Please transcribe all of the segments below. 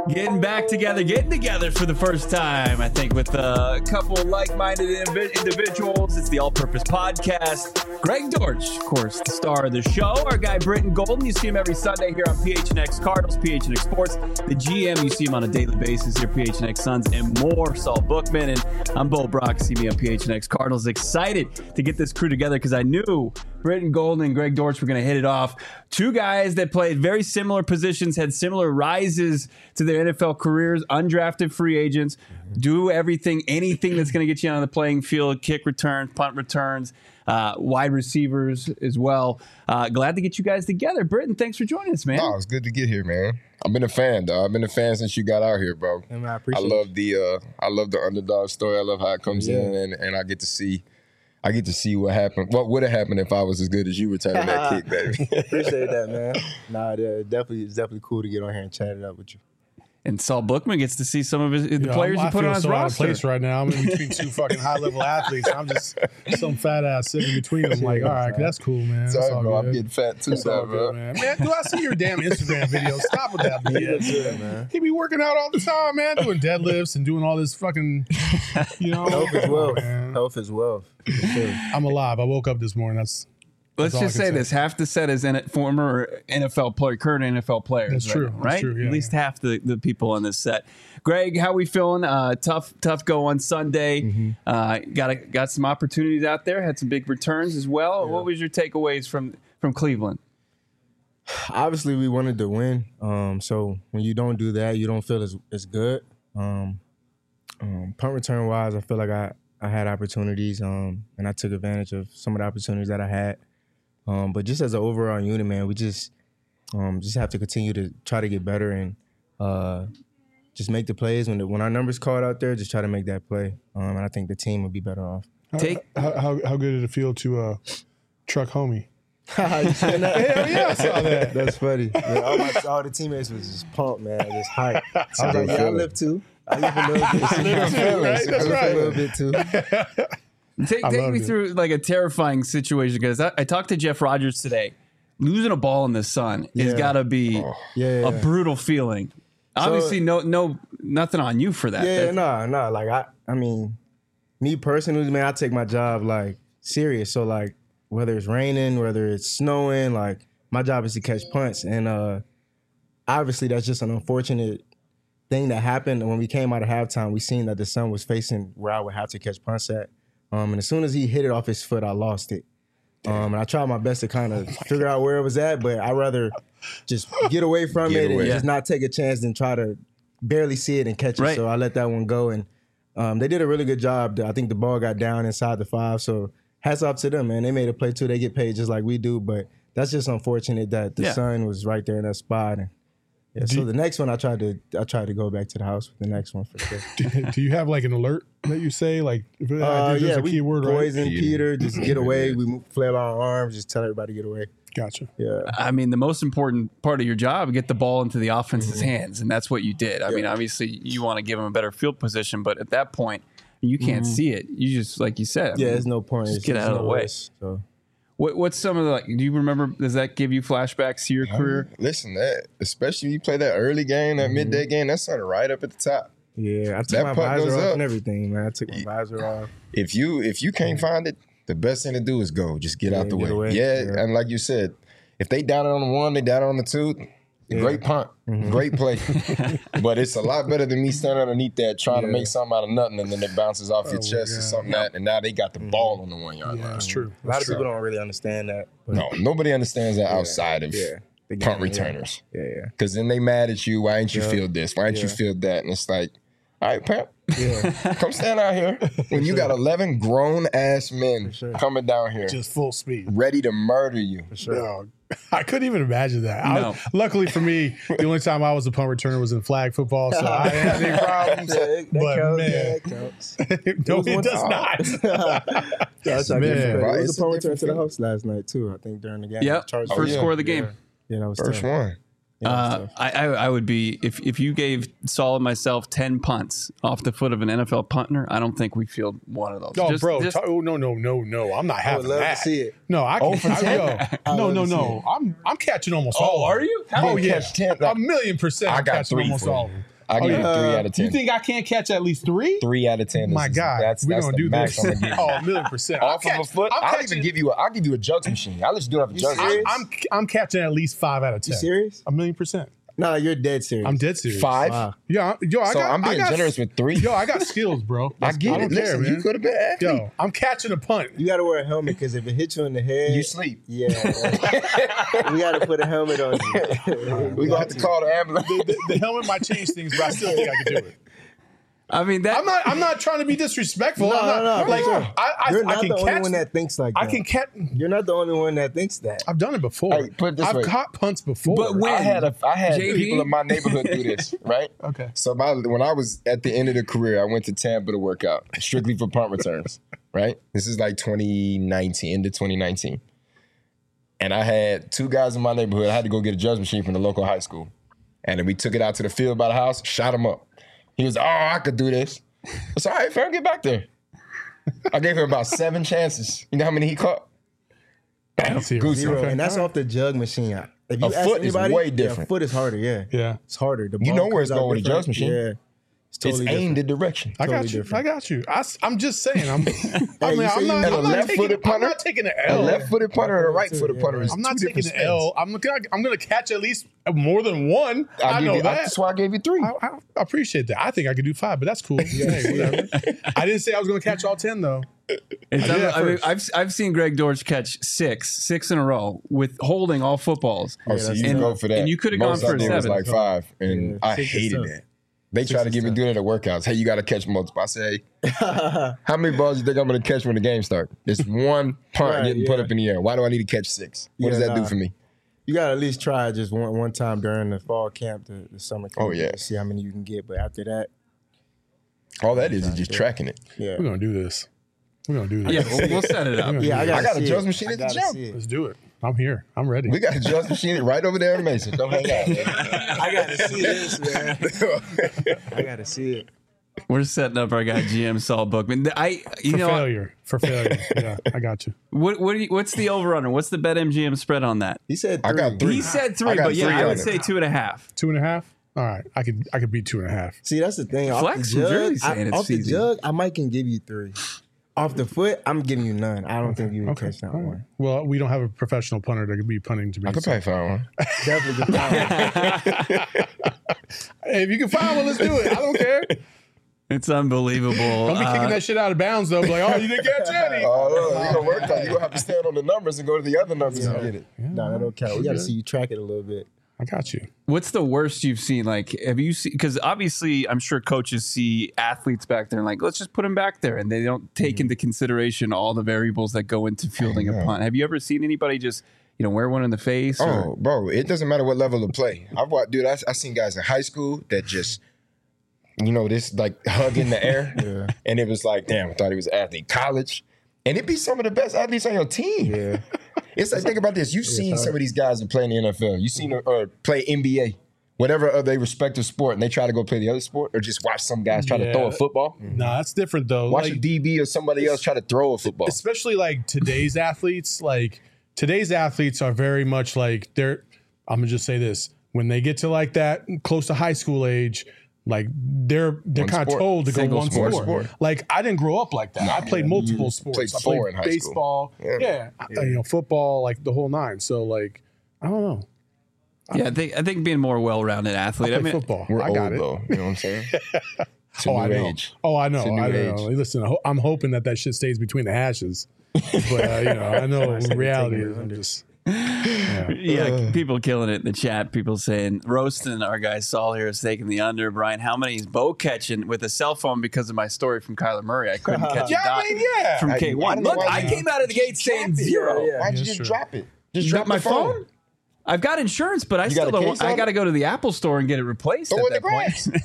Getting together for the first time, I think, with a couple like-minded individuals. It's the All-Purpose Podcast. Greg Dortch, of course, the star of the show. Our guy, Britton Golden. You see him every Sunday here on PHNX Cardinals, PHNX Sports. The GM, you see him on a daily basis here, PHNX Suns, and more. Saul Bookman. And I'm Bo Brock. See me on PHNX Cardinals. Excited to get this crew together because I knew Britton Golden and Greg Dortch were going to hit it off. Two guys that played very similar positions, had similar rises to their NFL careers, undrafted free agents, do anything that's going to get you on the playing field, kick returns, punt returns, wide receivers as well. Glad to get you guys together. Britton, thanks for joining us, man. Oh, it's good to get here, man. I've been a fan, dog. I've been a fan since you got out here, bro. And I appreciate it. I love the underdog story. I love how it comes in, and I get to see what happened. What would have happened if I was as good as you returning that kick, baby? Appreciate that, man. It's definitely cool to get on here and chat it up with you. And Saul Bookman gets to see some of the players you put on his roster. I'm out of place right now. I'm in between two fucking high-level athletes. I'm just some fat ass sitting between them. Like, all right, that's cool, man. Sorry, all bro. good. I'm getting fat too, bro. Man, do I see your damn Instagram videos? Stop with that, man. He be working out all the time, man, doing deadlifts and doing all this fucking, Health is wealth. Man. Health is wealth. Sure. I'm alive. I woke up this morning. Let's just say this: half the set is former NFL player, current NFL players. That's true. Right? That's true, yeah, At least half the people on this set. Greg, how we feeling? Tough go on Sunday. Got some opportunities out there. Had some big returns as well. Yeah. What was your takeaways from Cleveland? Obviously, we wanted to win. So when you don't do that, you don't feel as good. Punt return wise, I feel like I had opportunities, and I took advantage of some of the opportunities that I had. But just as an overall unit, man, we just have to continue to try to get better and just make the plays. When our numbers called out there, just try to make that play. And I think the team would be better off. How good did it feel to truck homie? You seen that? Hell yeah, I saw that. That's funny. Yeah, all the teammates was just pumped, man. Just hype. I was like, I live too. I live a little bit. That's right. A little bit too. Take me through like a terrifying situation because I talked to Jeff Rodgers today. Losing a ball in the sun has got to be a brutal feeling. Obviously, nothing on you for that. Yeah, no. Like I mean, me personally, man, I take my job like serious. So like whether it's raining, whether it's snowing, like my job is to catch punts, and obviously that's just an unfortunate thing that happened. And when we came out of halftime, we seen that the sun was facing where I would have to catch punts at. And as soon as he hit it off his foot, I lost it. And I tried my best to kind of figure out where it was at, but I'd rather just get away from it and just not take a chance than try to barely see it and catch it. Right. So I let that one go. And they did a really good job. I think the ball got down inside the 5. So hats off to them, man. They made a play too. They get paid just like we do. But that's just unfortunate that the sun was right there in that spot. And so the next one, I tried to go back to the house with the next one for sure. Do you have like an alert that you say? Like, if there's a keyword, right? Poison, Peter, just get away. We flail our arms, just tell everybody to get away. Gotcha. Yeah. I mean, the most important part of your job, get the ball into the offense's hands, and that's what you did. I mean, obviously, you want to give them a better field position, but at that point, you can't see it. You just, like you said, there's no point. Just get out of the way. So. What's some of the, do you remember, does that give you flashbacks to your career? Listen, that especially you play that early game, that midday game, that's something right up at the top. Yeah, I took my visor off and everything, man. I took my visor off. If you can't find it, the best thing to do is go. Just get out the way. Yeah, and like you said, if they down it on the 1, they down it on the 2, great punt, great play. But it's a lot better than me standing underneath that trying to make something out of nothing, and then it bounces off your chest or something and now they got the ball on the 1 yard line. That's true. A lot of people don't really understand that. No, nobody understands that outside of punt returners. Yeah. Because then they mad at you. Why ain't you feel this? Why ain't you feel that? And it's like, all right, Pep, come stand out here. When you got 11 grown-ass men coming down here. Just full speed. Ready to murder you. For sure. No, I couldn't even imagine that. Luckily for me, the only time I was a punt returner was in flag football, so I didn't have any problems. That counts. No, it does not. Man. I was a punt returner to the house last night, too, I think, during the game. Yep, first score of the game. Yeah, that was First tough. one. I would be, if you gave Saul and myself 10 punts off the foot of an NFL punter, I don't think we field one of those. No, no. I'm not having that. I would love to see it. No, I'm catching almost all. Are you? Catch 10. 1,000,000%. I got catching 3 almost for all of you. them. I give you 3 out of 10. You think I can't catch at least 3? 3 out of 10. My God, we're gonna do this. Oh, 1,000,000%. Off of a foot, I'll give you a jugs machine. I'll let you do it off a jugs machine. I'm catching at least 5 out of 10. You serious? 1,000,000%. No, you're dead serious. I'm dead serious. 5? Wow. I'm being generous with 3. Yo, I got skills, bro. I get it. Listen, man. you could have been athlete. Yo, I'm catching a punt. You got to wear a helmet because if it hits you in the head, you sleep. Yeah, we got to put a helmet on you. We gonna have to call the ambulance. The helmet might change things, but I still think I can do it. I mean, I'm not trying to be disrespectful. No. You're not I can the only catch, one that thinks like that. I can catch. You're not the only one that thinks that. I've done it before. Hey, put it this way. I've caught punts before. But when? I had JP? people in my neighborhood do this, right? Okay. So when I was at the end of the career, I went to Tampa to work out strictly for punt returns, right? This is like 2019, into 2019. And I had 2 guys in my neighborhood. I had to go get a jugs machine from the local high school. And then we took it out to the field by the house, shot him up. He was, I could do this. I said, all right, fam, get back there. I gave him about 7 chances. You know how many he caught? Bam, goose. Okay. And that's off the jug machine. If you A foot is way different. A foot is harder, yeah. It's harder. The You ball know where it's comes out going with a different. jugs machine. Yeah. It's aimed in direction. I got you. I got you. I'm just saying. I'm not taking an L. A left-footed punter and a right-footed punter is I'm not two taking different an L. I'm going to catch at least more than 1. I know that. That's why I gave you 3. I appreciate that. I think I could do 5, but that's cool. Hey, whatever. I didn't say I was going to catch all 10 though. I mean, I've seen Greg Dortch catch 6 in a row with holding all footballs. Oh, so you can go for that. And you could have gone for a 7. It was like 5, and I hated that. They try to get me doing it at workouts. Hey, you got to catch multiple. I say, how many balls do you think I'm going to catch when the game starts? It's 1 punt getting put up in the air. Why do I need to catch 6? What does that do for me? You got to at least try just one time during the fall camp, the summer camp. Oh, yeah. To see how many you can get. But after that. All that is just tracking it. Yeah. We're going to do this. Yeah, we'll set it up. Yeah, I got a jugs machine at the gym. Let's do it. I'm here. I'm ready. We got a jugs machine right over there in Mason. Don't hang out, man. I got to see this, man. I got to see it. We're setting up our guy GM Saul Bookman. For failure. Yeah, I got you. What's the over/under? What's the BetMGM spread on that? He said 3. I got 3. He said 3, but yeah, I would say 2.5. 2.5. All right, I could beat 2.5. See, that's the thing. Flex from Jersey saying it's off the easy. jug, I might can give you 3. Off the foot, I'm giving you none. I don't think you would catch that one. Well, we don't have a professional punter that could be punting to me. I could probably find one. Definitely could find one. Hey, if you can find one, let's do it. I don't care. It's unbelievable. Don't be kicking that shit out of bounds, though. Like, oh, you didn't catch any. Oh, no, you're going to work on it. You're going to have to stand on the numbers and go to the other numbers and get it. No, that don't count. We got to see you track it a little bit. I got you. What's the worst you've seen? Like, have you seen? Because obviously, I'm sure coaches see athletes back there and like, let's just put them back there, and they don't take into consideration all the variables that go into fielding a punt. Have you ever seen anybody just wear one in the face? Oh, bro, it doesn't matter what level of play. I've seen guys in high school that just, this like hug in the air, and it was like, damn, I thought he was an athlete. College, and it'd be some of the best athletes on your team. Yeah. It's like, think about this. You've seen some of these guys that play in the NFL. You've seen or play NBA, whatever of their respective sport, and they try to go play the other sport, or just watch some guys try to throw a football. No, that's different though. Watch a DB or somebody else try to throw a football. Especially like today's athletes. Like today's athletes are very much like I'm gonna just say this: when they get to like that close to high school age. Like they're kind of told to go one sport. Like I didn't grow up like that. No, I played multiple sports. I played baseball, football, like the whole 9. So like I don't know. I think being more well-rounded athlete. I mean, football. We're I got old, though. You know what I'm saying? I know. Age. I know. Listen, I'm hoping that shit stays between the hashes. But I know reality is. I'm just. People killing it in the chat. People saying roasting our guy Saul here is taking the under. Brian, how many is Bo catching with a cell phone because of my story from Kyler Murray? I couldn't catch a dot from K1. Look, I came out of the gate saying 0. Why'd you just drop it? Just drop my phone? I've got insurance, but I still don't. I got to go to the Apple store and get it replaced at that point.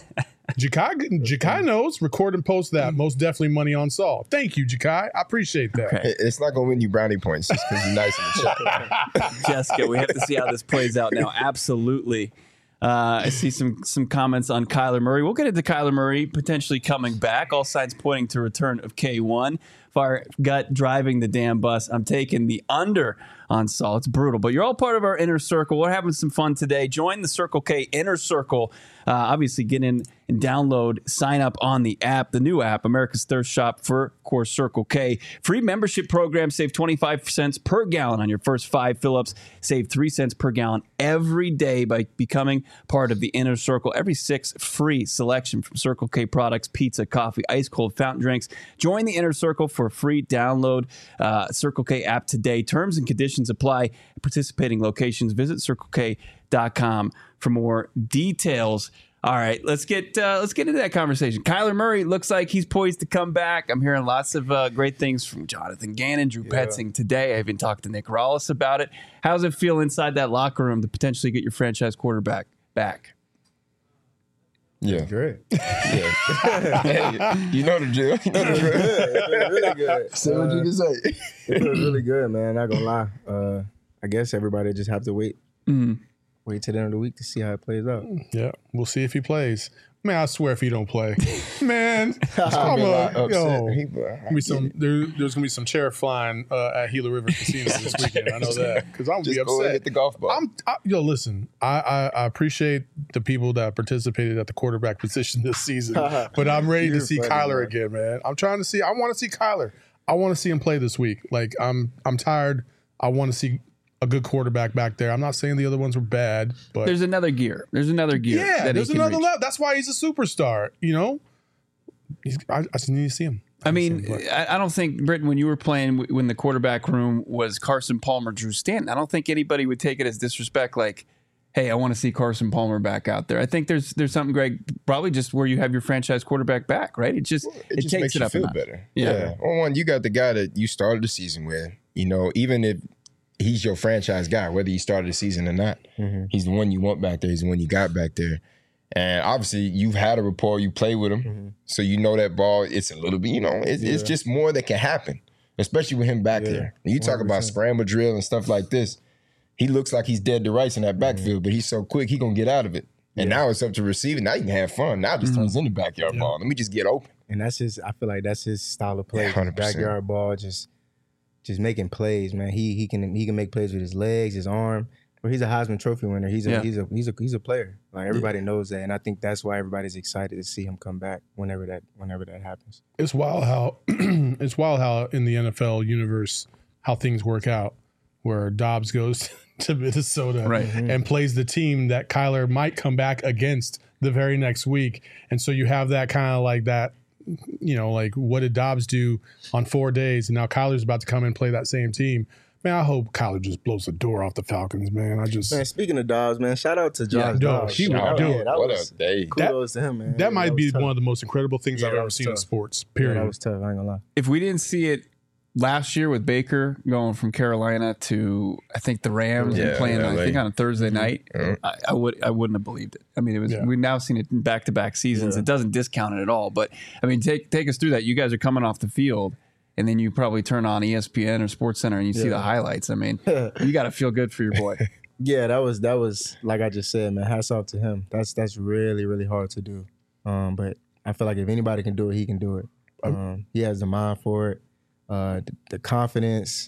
Jakai knows. Record and post that. Most definitely money on Saul. Thank you, Jakai. I appreciate that. Okay. It's not going to win you brownie points just because you're nice in the chat. Jessica, we have to see how this plays out now. Absolutely. I see some comments on Kyler Murray. We'll get into Kyler Murray potentially coming back. All signs pointing to return of K1. Fire gut driving the damn bus. I'm taking the under on Saul. It's brutal, but you're all part of our inner circle. We're having some fun today. Join the Circle K Inner Circle. Obviously, get in and download, sign up on the app, the new app, America's Thirst Shop for, of course, Circle K. Free membership program, save 25 cents per gallon on your first 5 fill-ups. Save 3 cents per gallon every day by becoming part of the Inner Circle. Every 6 free selection from Circle K products, pizza, coffee, ice cold fountain drinks. Join the Inner Circle for a free download. Circle K app today. Terms and conditions apply at participating locations. Visit CircleK.com for more details. All right, let's get into that conversation. Kyler Murray looks like he's poised to come back. I'm hearing lots of great things from Jonathan Gannon, Drew Petzing today. I even talked to Nick Rallis about it. How does it feel inside that locker room to potentially get your franchise quarterback back? Yeah, great. Yeah. Hey, you know the drill. You know the drill. It's really good. Say what you can say. It feels really good, man. Not gonna lie. I guess everybody just have to wait. Wait till the end of the week to see how it plays out. Yeah, we'll see if he plays. Man, I swear if he don't play, man, there's gonna be some chair flying at Gila River Casino this weekend. I know that because I'm gonna be upset. Hit the golf ball. Listen, I appreciate the people that participated at the quarterback position this season, but I'm ready to see Kyler again, man. I want to see Kyler. I want to see him play this week. Like I'm tired. I want to see a good quarterback back there. I'm not saying the other ones were bad, but there's another gear. Yeah, there's another level. That's why he's a superstar. You know, I just need to see him. I mean, I don't think, Britton, when you were playing, when the quarterback room was Carson Palmer, Drew Stanton, I don't think anybody would take it as disrespect. Like, hey, I want to see Carson Palmer back out there. I think there's something, Greg, probably just where you have your franchise quarterback back, right? It just takes makes it you up feel better. Yeah. Well, one, you got the guy that you started the season with. You know, even if he's your franchise guy, whether you started the season or not. He's the one you want back there. He's the one you got back there. And obviously, you've had a rapport. You play with him. So you know that ball, it's a little bit, you know, it's just more that can happen, especially with him back there. When you talk 100%. About scramble drill and stuff like this, he looks like he's dead to rights in that backfield, but he's so quick, he going to get out of it. And now it's up to receiving. Now you can have fun. Now it just turns into backyard ball. Let me just get open. And that's I feel like that's his style of play. 100%. Backyard ball, just making plays, man. He can make plays with his legs, his arm. But he's a Heisman Trophy winner. He's a player. Like everybody knows that, and I think that's why everybody's excited to see him come back whenever that happens. It's wild how in the NFL universe how things work out, where Dobbs goes to Minnesota and plays the team that Kyler might come back against the very next week, and so you have that kind of like that. You know, like what did Dobbs do on 4 days, and now Kyler's about to come and play that same team. Man, I hope Kyler just blows the door off the Falcons, man. Man, speaking of Dobbs, man, shout out to Josh Dobbs. He would do it. What a day. Kudos to him, man. That might be one of the most incredible things I've ever seen in sports, period. That was tough, I ain't gonna lie. If we didn't see it last year with Baker going from Carolina to, I think, the Rams and playing, I think, on a Thursday night, I wouldn't have believed it. I mean, it was. We've now seen it in back-to-back seasons. It doesn't discount it at all. But, I mean, take us through that. You guys are coming off the field, and then you probably turn on ESPN or SportsCenter and you see the highlights. I mean, you got to feel good for your boy. Yeah, that was like I just said, man. Hats off to him. That's really, really hard to do. But I feel like if anybody can do it, he can do it. He has the mind for it, the confidence.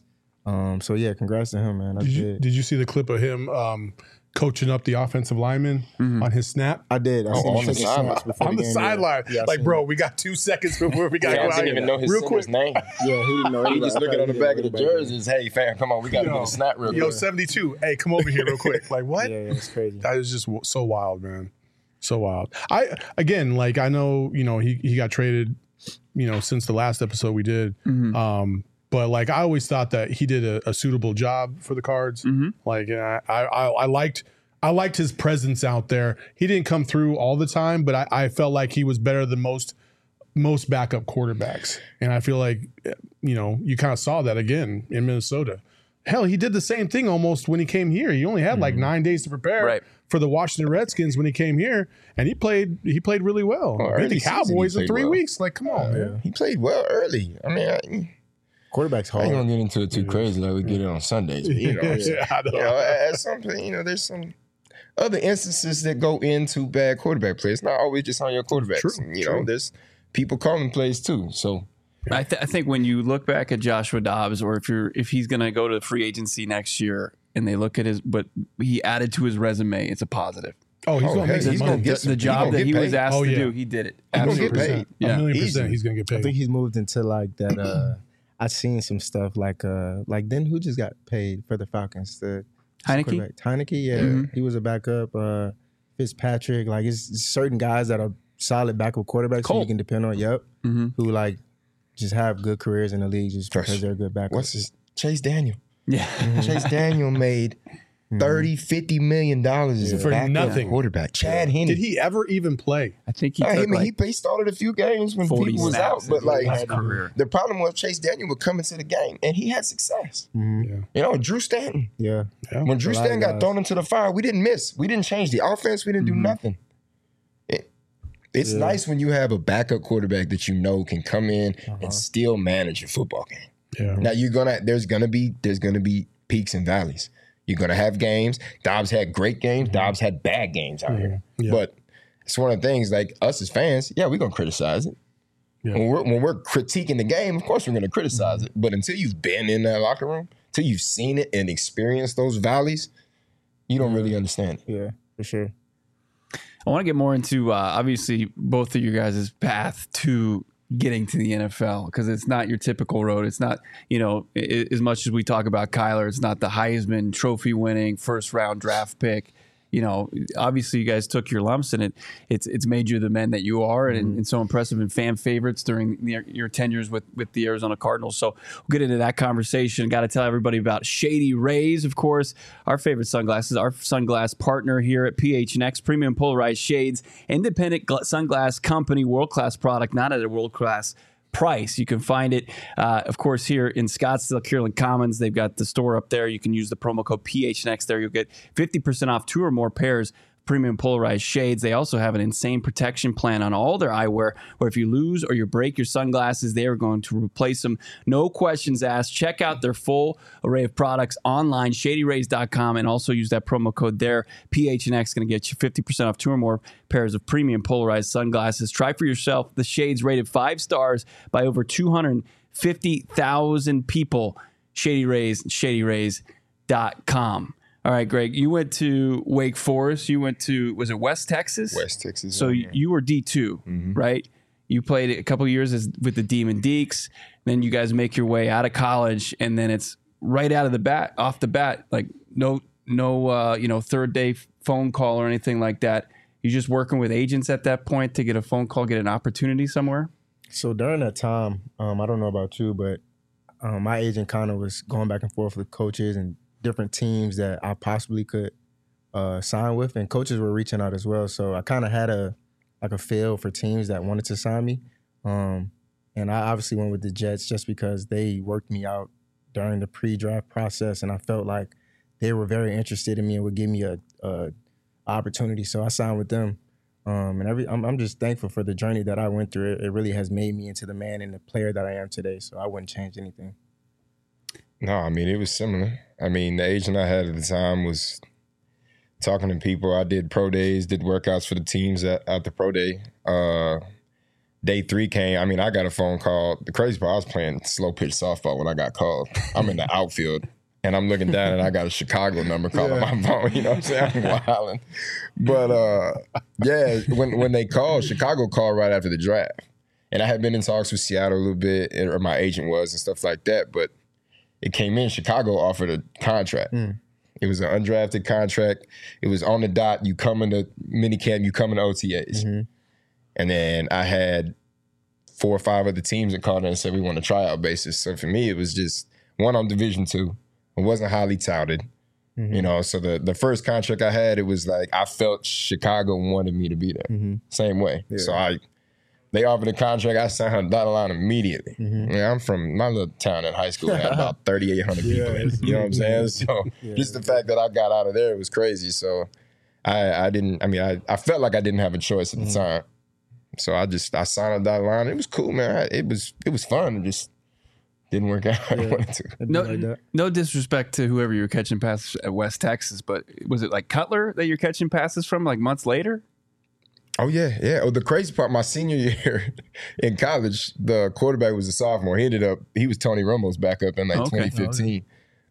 So yeah, congrats to him, man. Did you see the clip of him coaching up the offensive lineman on his snap? I did. On the sideline. Yeah, like, bro, we got 2 seconds before we got to go out. I didn't even know his name. Yeah, he didn't know. He just looking on the back of the jerseys. Hey, fam, come on, we got to get a snap real quick. Yo, 72. Hey, come over here real quick. Like, what? Yeah, it's crazy. That is just so wild, man. So wild. I know, you know, he got traded, you know, since the last episode we did. But like I always thought that he did a suitable job for the Cards. Like I liked his presence out there. He didn't come through all the time, but I felt like he was better than most backup quarterbacks. And I feel like, you know, you kind of saw that again in Minnesota. Hell, he did the same thing almost when he came here. He only had like 9 days to prepare for the Washington Redskins when he came here, and he played really well. Beat the Cowboys in 3 weeks. Like, come on, man. He played well early. I mean, quarterback's hard. I ain't gonna get into it too crazy like we get it on Sundays. But, you know, at some point, you know, there's some other instances that go into bad quarterback play. It's not always just on your quarterbacks. True. You know, there's people calling plays too. So I think when you look back at Joshua Dobbs, or if he's going to go to free agency next year, and they look at what he added to his resume, it's a positive. Oh, he's going to get the job that he was asked to do. He did it. Absolutely. He's get paid. Yeah. 1,000,000% he's going to get paid. I think he's moved into like that. I've seen some stuff like then who just got paid for the Falcons? The Heineke? Heineke, yeah. He was a backup. Fitzpatrick, like it's certain guys that are solid backup quarterbacks who you can depend on. Yep. Who like just have good careers in the league just because they're good backups. Chase Daniel. Yeah. Chase Daniel made $30-50 million as a for nothing quarterback. Chad Henne. Did he ever even play? I think he he started a few games when people was out, but like the problem was Chase Daniel would come into the game and he had success. You know, Drew Stanton. Yeah. When Drew Stanton got thrown into the fire, we didn't miss. We didn't change the offense. We didn't do nothing. It's nice when you have a backup quarterback that you know can come in and still manage a football game. Yeah. Now there's gonna be peaks and valleys. You're gonna have games. Dobbs had great games. Dobbs had bad games out here. Yeah. But it's one of the things like us as fans. Yeah, we're gonna criticize it. Yeah. When we're critiquing the game, of course we're gonna criticize it. But until you've been in that locker room, until you've seen it and experienced those valleys, you don't really understand it. Yeah, for sure. I want to get more into obviously both of you guys' path to getting to the NFL, because it's not your typical road. It's not, as much as we talk about Kyler, it's not the Heisman Trophy winning first round draft pick. Obviously you guys took your lumps and it's made you the men that you are and so impressive and fan favorites during your tenures with the Arizona Cardinals. So we'll get into that conversation. Got to tell everybody about Shady Rays, of course, our favorite sunglasses, our sunglass partner here at PHNX, premium polarized shades, independent sunglass company, world-class product, not at a world-class price. You can find it, of course, here in Scottsdale, Kierland Commons. They've got the store up there. You can use the promo code PHNX there. You'll get 50% off 2 or more pairs of premium polarized shades. They also have an insane protection plan on all their eyewear, where if you lose or you break your sunglasses, they are going to replace them. No questions asked. Check out their full array of products online, shadyrays.com, and also use that promo code there. PHNX going to get you 50% off 2 or more pairs of premium polarized sunglasses. Try for yourself the shades rated 5 stars by over 250,000 people. Shady Rays, shadyrays.com. All right, Greg, you went to Wake Forest. You went to, was it West Texas? West Texas. So you were D2, right? You played a couple of years with the Demon Deacs. Then you guys make your way out of college, and then it's right off the bat, like no third day phone call or anything like that. You're just working with agents at that point to get a phone call, get an opportunity somewhere? So during that time, I don't know about you, but my agent kind of was going back and forth with coaches and different teams that I possibly could sign with, and coaches were reaching out as well. So I kind of had a feel for teams that wanted to sign me, and I obviously went with the Jets just because they worked me out during the pre-draft process, and I felt like they were very interested in me and would give me a opportunity. So I signed with them, and I'm just thankful for the journey that I went through. It really has made me into the man and the player that I am today. So I wouldn't change anything. No, I mean, it was similar. I mean, the agent I had at the time was talking to people. I did pro days, did workouts for the teams at the pro day. Day 3 came. I mean, I got a phone call. The crazy part, I was playing slow pitch softball when I got called. I'm in the outfield, and I'm looking down, and I got a Chicago number calling my phone. You know what I'm saying? I'm wilding. But, when they called, Chicago called right after the draft. And I had been in talks with Seattle a little bit, or my agent was, and stuff like that. But it came in, Chicago offered a contract. It was an undrafted contract. It was on the dot. You come into minicamp, you come into OTAs. And then I had 4 or 5 other teams that called in and said we want a tryout basis. So for me, it was just one on Division II. It wasn't highly touted. So the first contract I had, it was like I felt Chicago wanted me to be there. Same way. Yeah. So they offered a contract. I signed on the dotted line immediately. I'm from my little town in high school. It had about 3,800 people in it. You know what I'm saying? So just the fact that I got out of there, it was crazy. So I felt like I didn't have a choice at the time. So I signed on the dotted line. It was cool, man. It was fun. It just didn't work out how I wanted to. No disrespect to whoever you were catching passes at West Texas, but was it like Cutler that you're catching passes from like months later? Oh, yeah. Oh, the crazy part, my senior year in college, the quarterback was a sophomore. He was Tony Romo's backup in 2015.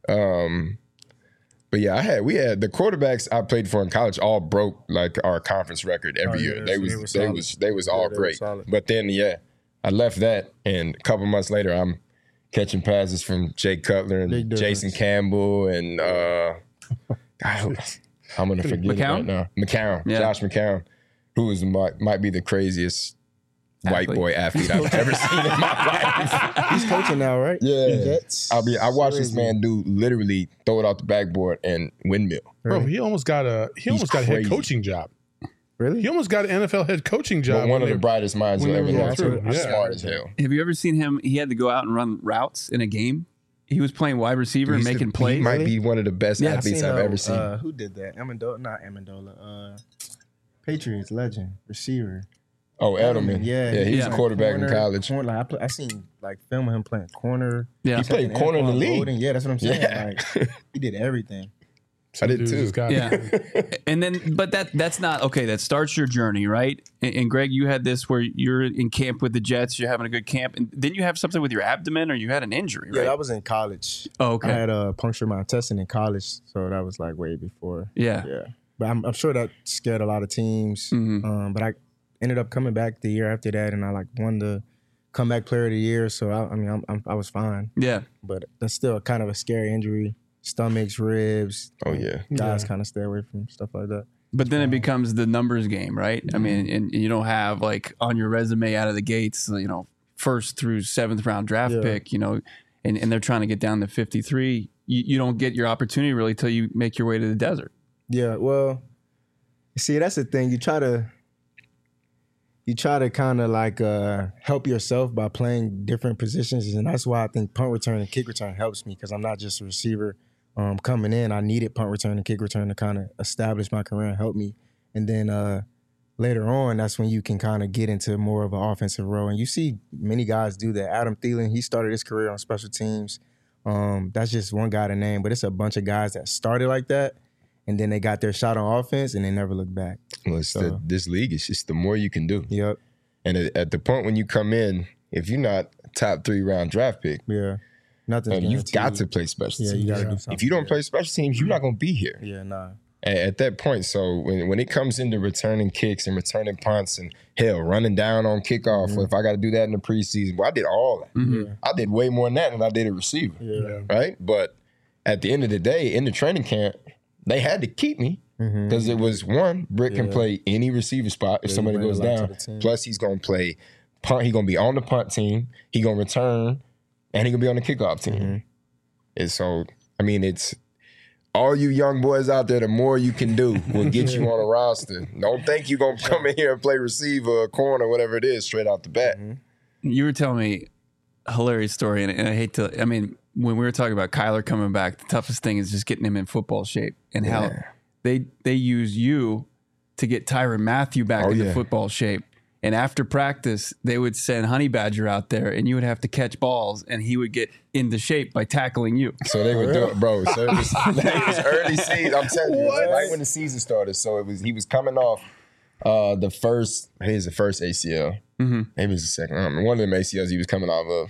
But yeah, we had the quarterbacks I played for in college all broke like our conference record every year. They was all great. But then I left that, and a couple months later, I'm catching passes from Jay Cutler and Jason Campbell and I'm gonna forget it right now. McCown, Josh McCown, who might be the craziest white boy athlete I've ever seen in my life. He's coaching now, right? Yeah. I watched this man literally throw it off the backboard and windmill. Bro, he almost got a head coaching job. Really? He almost got an NFL head coaching job. One of the brightest minds you'll ever know. Smart as hell. Have you ever seen him? He had to go out and run routes in a game. He was playing wide receiver and making plays. He might be one of the best athletes I've ever seen. Who did that? Amendola. Patriots legend, receiver. Oh, Edelman. Yeah, he was a quarterback in college. I seen film of him playing corner. Yeah, he played corner in the league. Yeah, that's what I'm saying. Yeah. Like, he did everything. I did too. And then, but that's not okay. That starts your journey, right? And Greg, you had this where you're in camp with the Jets. You're having a good camp, and then you have something with your abdomen, or you had an injury, right? Yeah, that was in college. Oh, okay. I had a puncture my intestine in college, so that was like way before. Yeah. But I'm sure that scared a lot of teams. Mm-hmm. But I ended up coming back the year after that, and I won the comeback player of the year. So I was fine. Yeah. But that's still kind of a scary injury. Stomachs, ribs. Oh yeah. Guys kind of stay away from stuff like that. But then it becomes the numbers game, right? Mm-hmm. I mean, and you don't have like on your resume out of the gates, first through 7th round draft pick, and they're trying to get down to 53. You don't get your opportunity really till you make your way to the desert. Yeah, well, see, that's the thing. You try to kind of like help yourself by playing different positions, and that's why I think punt return and kick return helps me, because I'm not just a receiver. Coming in, I needed punt return and kick return to kind of establish my career and help me. And then later on, that's when you can kind of get into more of an offensive role. And you see many guys do that. Adam Thielen, he started his career on special teams. That's just one guy to name, but it's a bunch of guys that started like that, and then they got their shot on offense, and they never looked back. Well, this league is just the more you can do. Yep. And at the point when you come in, if you're not top 3 round draft pick, you've got to play special teams. You got to do something. If you don't play special teams, you're not going to be here. Yeah, nah. At that point, so when it comes into returning kicks and returning punts and running down on kickoff, or if I got to do that in the preseason, I did all that. Mm-hmm. I did way more than that than I did a receiver. Yeah. Right? But at the end of the day, in the training camp, they had to keep me because it was one, Britt can play any receiver spot if somebody goes down. Plus, he's going to play punt. He's going to be on the punt team. He's going to return, and he's going to be on the kickoff team. Mm-hmm. And so, it's all you young boys out there, the more you can do will get you on a roster. Don't think you're going to come in here and play receiver or corner, whatever it is, straight out the bat. Mm-hmm. You were telling me a hilarious story, and I hate to, when we were talking about Kyler coming back, the toughest thing is just getting him in football shape, and how they use you to get Tyrann Mathieu back into football shape. And after practice, they would send Honey Badger out there, and you would have to catch balls, and he would get into shape by tackling you. So they would do it, bro. So it was early season. I'm telling you, it was right when the season started. So he was coming off the first ACL. Mm-hmm. Maybe it was the second. One of them ACLs he was coming off of.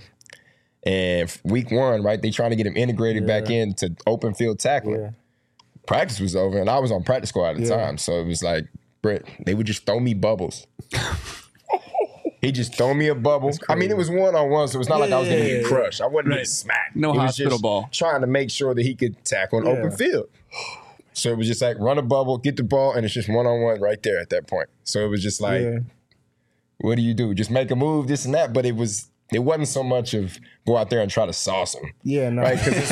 And week 1, right, they trying to get him integrated back into open field tackling. Yeah. Practice was over, and I was on practice squad at the time. So it was like, Britt, they would just throw me bubbles. He just throw me a bubble. It was one-on-one, so it's not like I was going to get crushed. I wasn't getting smacked. No hospital ball. Trying to make sure that he could tackle an open field. So it was just like run a bubble, get the ball, and it's just one-on-one right there at that point. So it was just like, what do you do? Just make a move, this and that. But it wasn't so much of go out there and try to sauce him. Yeah, no. Right? Because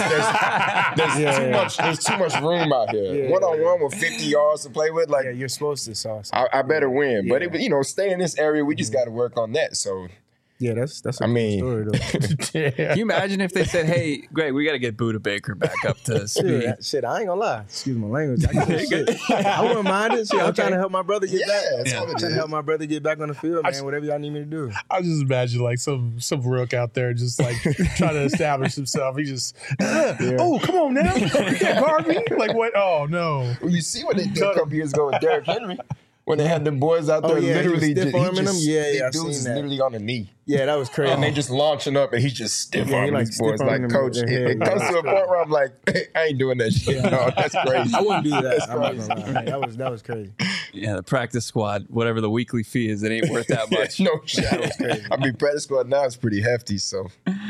there's too much room out here. One-on-one with 50 yards to play with. Like, you're supposed to sauce him. I better win. But, it was, stay in this area. We just got to work on that. So, yeah, that's a cool story, though. Can you imagine if they said, hey, Greg, we got to get Buda Baker back up to speed? Shit, I ain't going to lie. Excuse my language. I wouldn't mind it. I'm trying to help my brother get back. I'm trying to help my brother get back on the field, man. Whatever y'all need me to do. I just imagine like some rook out there just like trying to establish himself. He just, oh, come on now. You can't guard me. Like what? Oh, no. Well, you see what they did a couple years ago with Derrick Henry. When they had the boys out there, literally stiff arming them. Yeah, I dudes seen that. literally on the knee. Yeah, that was crazy. And they just launching up, and he's just stiff arming these boys. Like, coach, it comes to a point where I'm like, I ain't doing that shit. No, that's crazy. I wouldn't do that. I'm not gonna lie. That was crazy. Yeah, the practice squad, whatever the weekly fee is, it ain't worth that much. No shit. That was crazy. I mean, practice squad now is pretty hefty, so.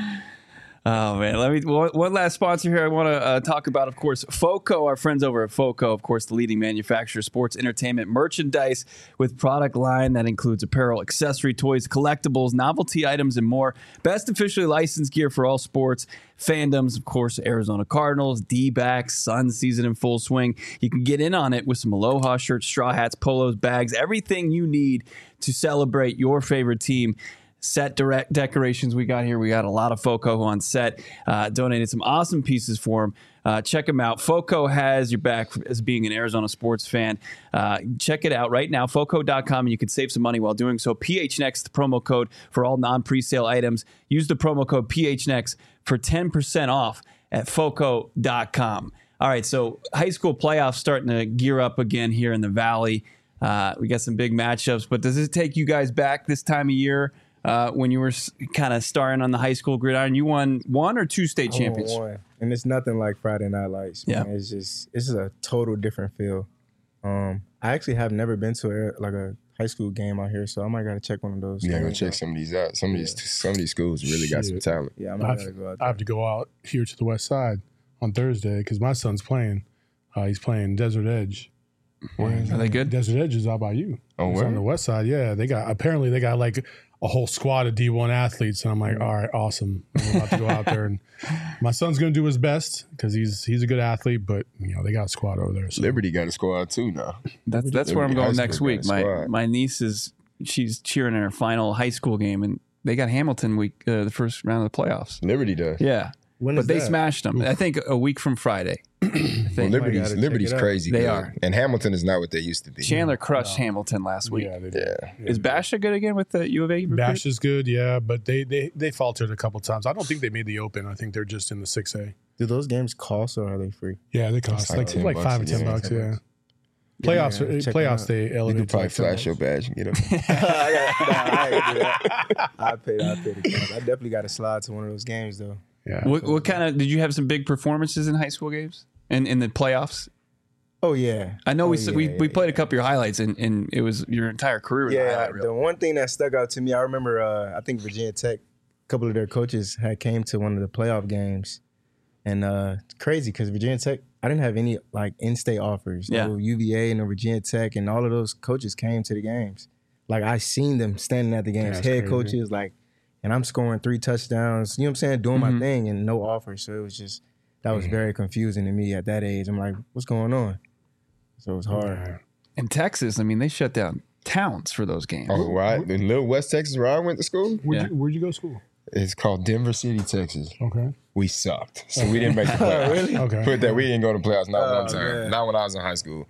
Oh, man. One last sponsor here I want to talk about, of course, FOCO, our friends over at FOCO, of course, the leading manufacturer of sports entertainment merchandise with product line that includes apparel, accessory, toys, collectibles, novelty items, and more. Best officially licensed gear for all sports fandoms, of course, Arizona Cardinals, D-backs, Sun season in full swing. You can get in on it with some Aloha shirts, straw hats, polos, bags, everything you need to celebrate your favorite team. Set direct decorations we got here. We got a lot of FOCO on set. Donated some awesome pieces for them. Check them out. FOCO has your back as being an Arizona sports fan. Check it out right now, FOCO.com, and you can save some money while doing so. PHNX, the promo code for all non-presale items. Use the promo code PHNX for 10% off at FOCO.com. All right, so high school playoffs starting to gear up again here in the Valley. We got some big matchups, but does it take you guys back this time of year? When you were kind of starring on the high school gridiron, you won 1 or 2 state championships. One. And it's nothing like Friday Night Lights. Man. Yeah, it's a total different feel. I actually have never been to a high school game out here, so I might gotta check one of those. Yeah, go check some of these out. Some of these schools really got some talent. Yeah, I gotta go out there. I have to go out here to the west side on Thursday because my son's playing. He's playing Desert Edge. Are they good? Desert Edge is out by you. Oh, it's on the west side. Yeah, they got like a whole squad of D1 athletes, and I'm like, all right, awesome. I'm about to go out there, and my son's going to do his best because he's a good athlete, but they got a squad over there. So. Liberty got a squad too now. That's where I'm going next week. My niece she's cheering in her final high school game, and they got Hamilton week, the first round of the playoffs. Liberty does. Yeah. But they smashed them. I think a week from Friday. Well, Liberty's crazy. They good. are. And Hamilton is not what they used to be. Chandler crushed Hamilton last week. Yeah, they did. Yeah. Is Basha good again with the U of A? Bash is good, yeah, but they faltered a couple times. I don't think they made the Open. I think they're just in the 6A. Do those games cost or are they free? Yeah, they cost like $5 or $10. Yeah. Playoffs, they elevate. You could probably flash your badge and get them. I paid the cash. I definitely got to slide to one of those games though. Yeah. What kind of did you have some big performances in high school games and in the playoffs? Oh yeah, I know we played a couple of your highlights and it was your entire career. Yeah, the one thing that stuck out to me, I remember. I think Virginia Tech, a couple of their coaches had came to one of the playoff games, and it's crazy because Virginia Tech, I didn't have any like in-state offers. Yeah. No UVA, no Virginia Tech, and all of those coaches came to the games. Like I seen them standing at the games, head coaches like. And I'm scoring 3 touchdowns, you know what I'm saying, doing my thing and no offer. So it was just, that was very confusing to me at that age. I'm like, what's going on? So it was hard. In Texas, I mean, they shut down towns for those games. Oh, right. In Little West Texas, where I went to school. Where'd you go to school? It's called Denver City, Texas. Okay. We sucked. So we didn't make the playoffs. Really? Okay. Put that, we didn't go to playoffs not one time. Man. Not when I was in high school.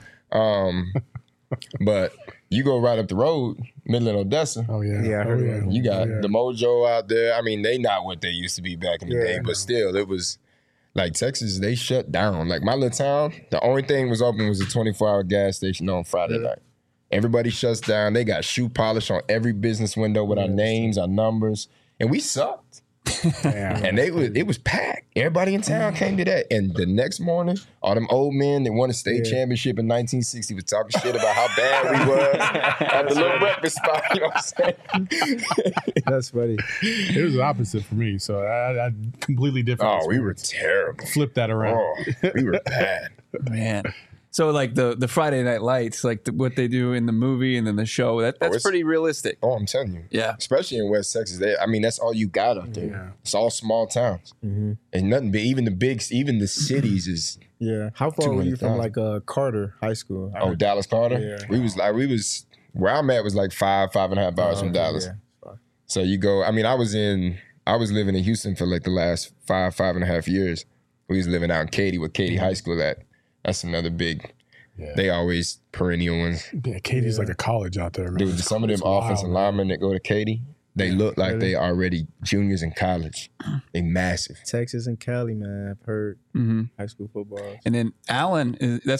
But you go right up the road, Midland, Odessa. Oh, yeah. Yeah, I heard that. You got the Mojo out there. I mean, they not what they used to be back in the day, but still, it was like Texas, they shut down. Like my little town, the only thing was open was a 24-hour gas station on Friday night. Everybody shuts down. They got shoe polish on every business window with our names, our numbers, and we sucked. And it was packed. Everybody in town came to that. And the next morning, all them old men that won a state championship in 1960 was talking shit about how bad we was at the little breakfast spot. You know what I'm saying? That's funny. It was the opposite for me. So I completely different. Oh, we were terrible. Flip that around. Oh, we were bad. Man. So like the Friday Night Lights, like what they do in the movie and then the show, that's pretty realistic. Oh, I'm telling you. Yeah. Especially in West Texas. That's all you got up there. Yeah. It's all small towns. And nothing big. Even the cities is. Yeah. How far were you from 200,000. like Carter High School? Oh, Dallas Carter? Yeah. We was where I'm at was like 5.5 hours from Dallas. Yeah. So you go, I was living in Houston for like the last 5.5 years. We was living out in Katy, where Katy High School at. That's another big, they always perennial ones. Yeah, Katie's like a college out there, man. Dude, some of them offensive linemen that go to Katy, they look like they already juniors in college. They massive. Texas and Cali, man. I've heard high school football. And then Allen, that's where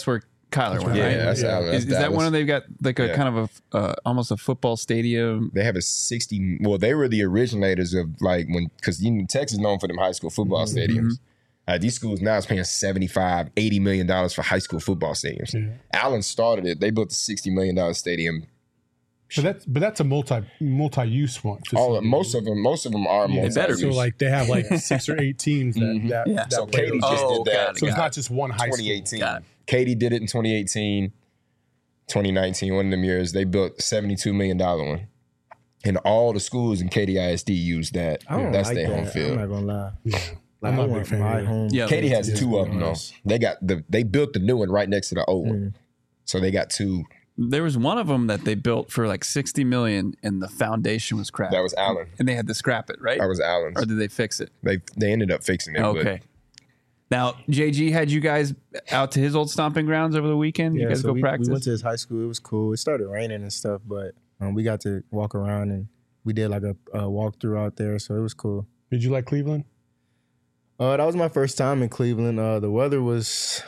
Kyler one, Yeah, right? that's Allen. Is that one of they've got like a kind of a almost a football stadium? They have a 60. Well, they were the originators of like because Texas is known for them high school football stadiums. These schools now is paying $75-80 million for high school football stadiums. Yeah. Allen started it. They built a $60 million stadium. But that's a multi-use one. Most of them are multi-use. So like they have like 6 or 8 teams that So Katy just did that. So it's not just one high school. 2018. Katy did it in 2018, 2019. One of them years they built a $72 million one, and all the schools in Katy ISD use that. That's their home field. I'm not gonna lie. Yeah. I'm not a big fan of it. Katy has 2 of them though. They built the new one right next to the old one, so they got 2. There was one of them that they built for like $60 million, and the foundation was cracked. That was Allen, and they had to scrap it, right? That was Allen's. Or did they fix it? They ended up fixing it. Okay. Now JG had you guys out to his old stomping grounds over the weekend. Yeah, you guys go practice. We went to his high school. It was cool. It started raining and stuff, but we got to walk around and we did like a walkthrough out there, so it was cool. Did you like Cleveland? That was my first time in Cleveland. The weather was,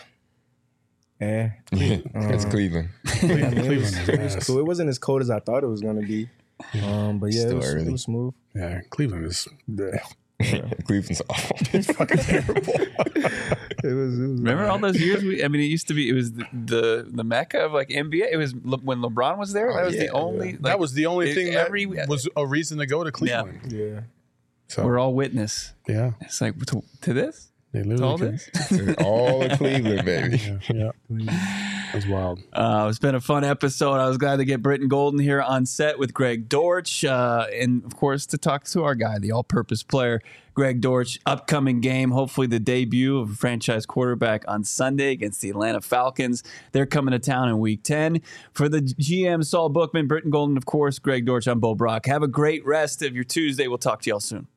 it's Cleveland. It was cool. It wasn't as cold as I thought it was going to be. But yeah, it was smooth. Yeah, Cleveland is. Cleveland's awful. It's fucking terrible. It was Remember all those years? It used to be. It was the mecca of like NBA. It was when LeBron was there. That was the only. Like, that was the only thing that was a reason to go to Cleveland. Yeah. So we're all witness. Yeah. It's like to this. They literally all this. All in Cleveland, baby. Yeah. That's wild. It's been a fun episode. I was glad to get Britton Golden here on set with Greg Dortch, and of course to talk to our guy, the all-purpose player, Greg Dortch. Upcoming game, hopefully the debut of a franchise quarterback on Sunday against the Atlanta Falcons. They're coming to town in Week 10. For the GM, Saul Bookman, Britton Golden, of course, Greg Dortch, I'm Bo Brock. Have a great rest of your Tuesday. We'll talk to y'all soon.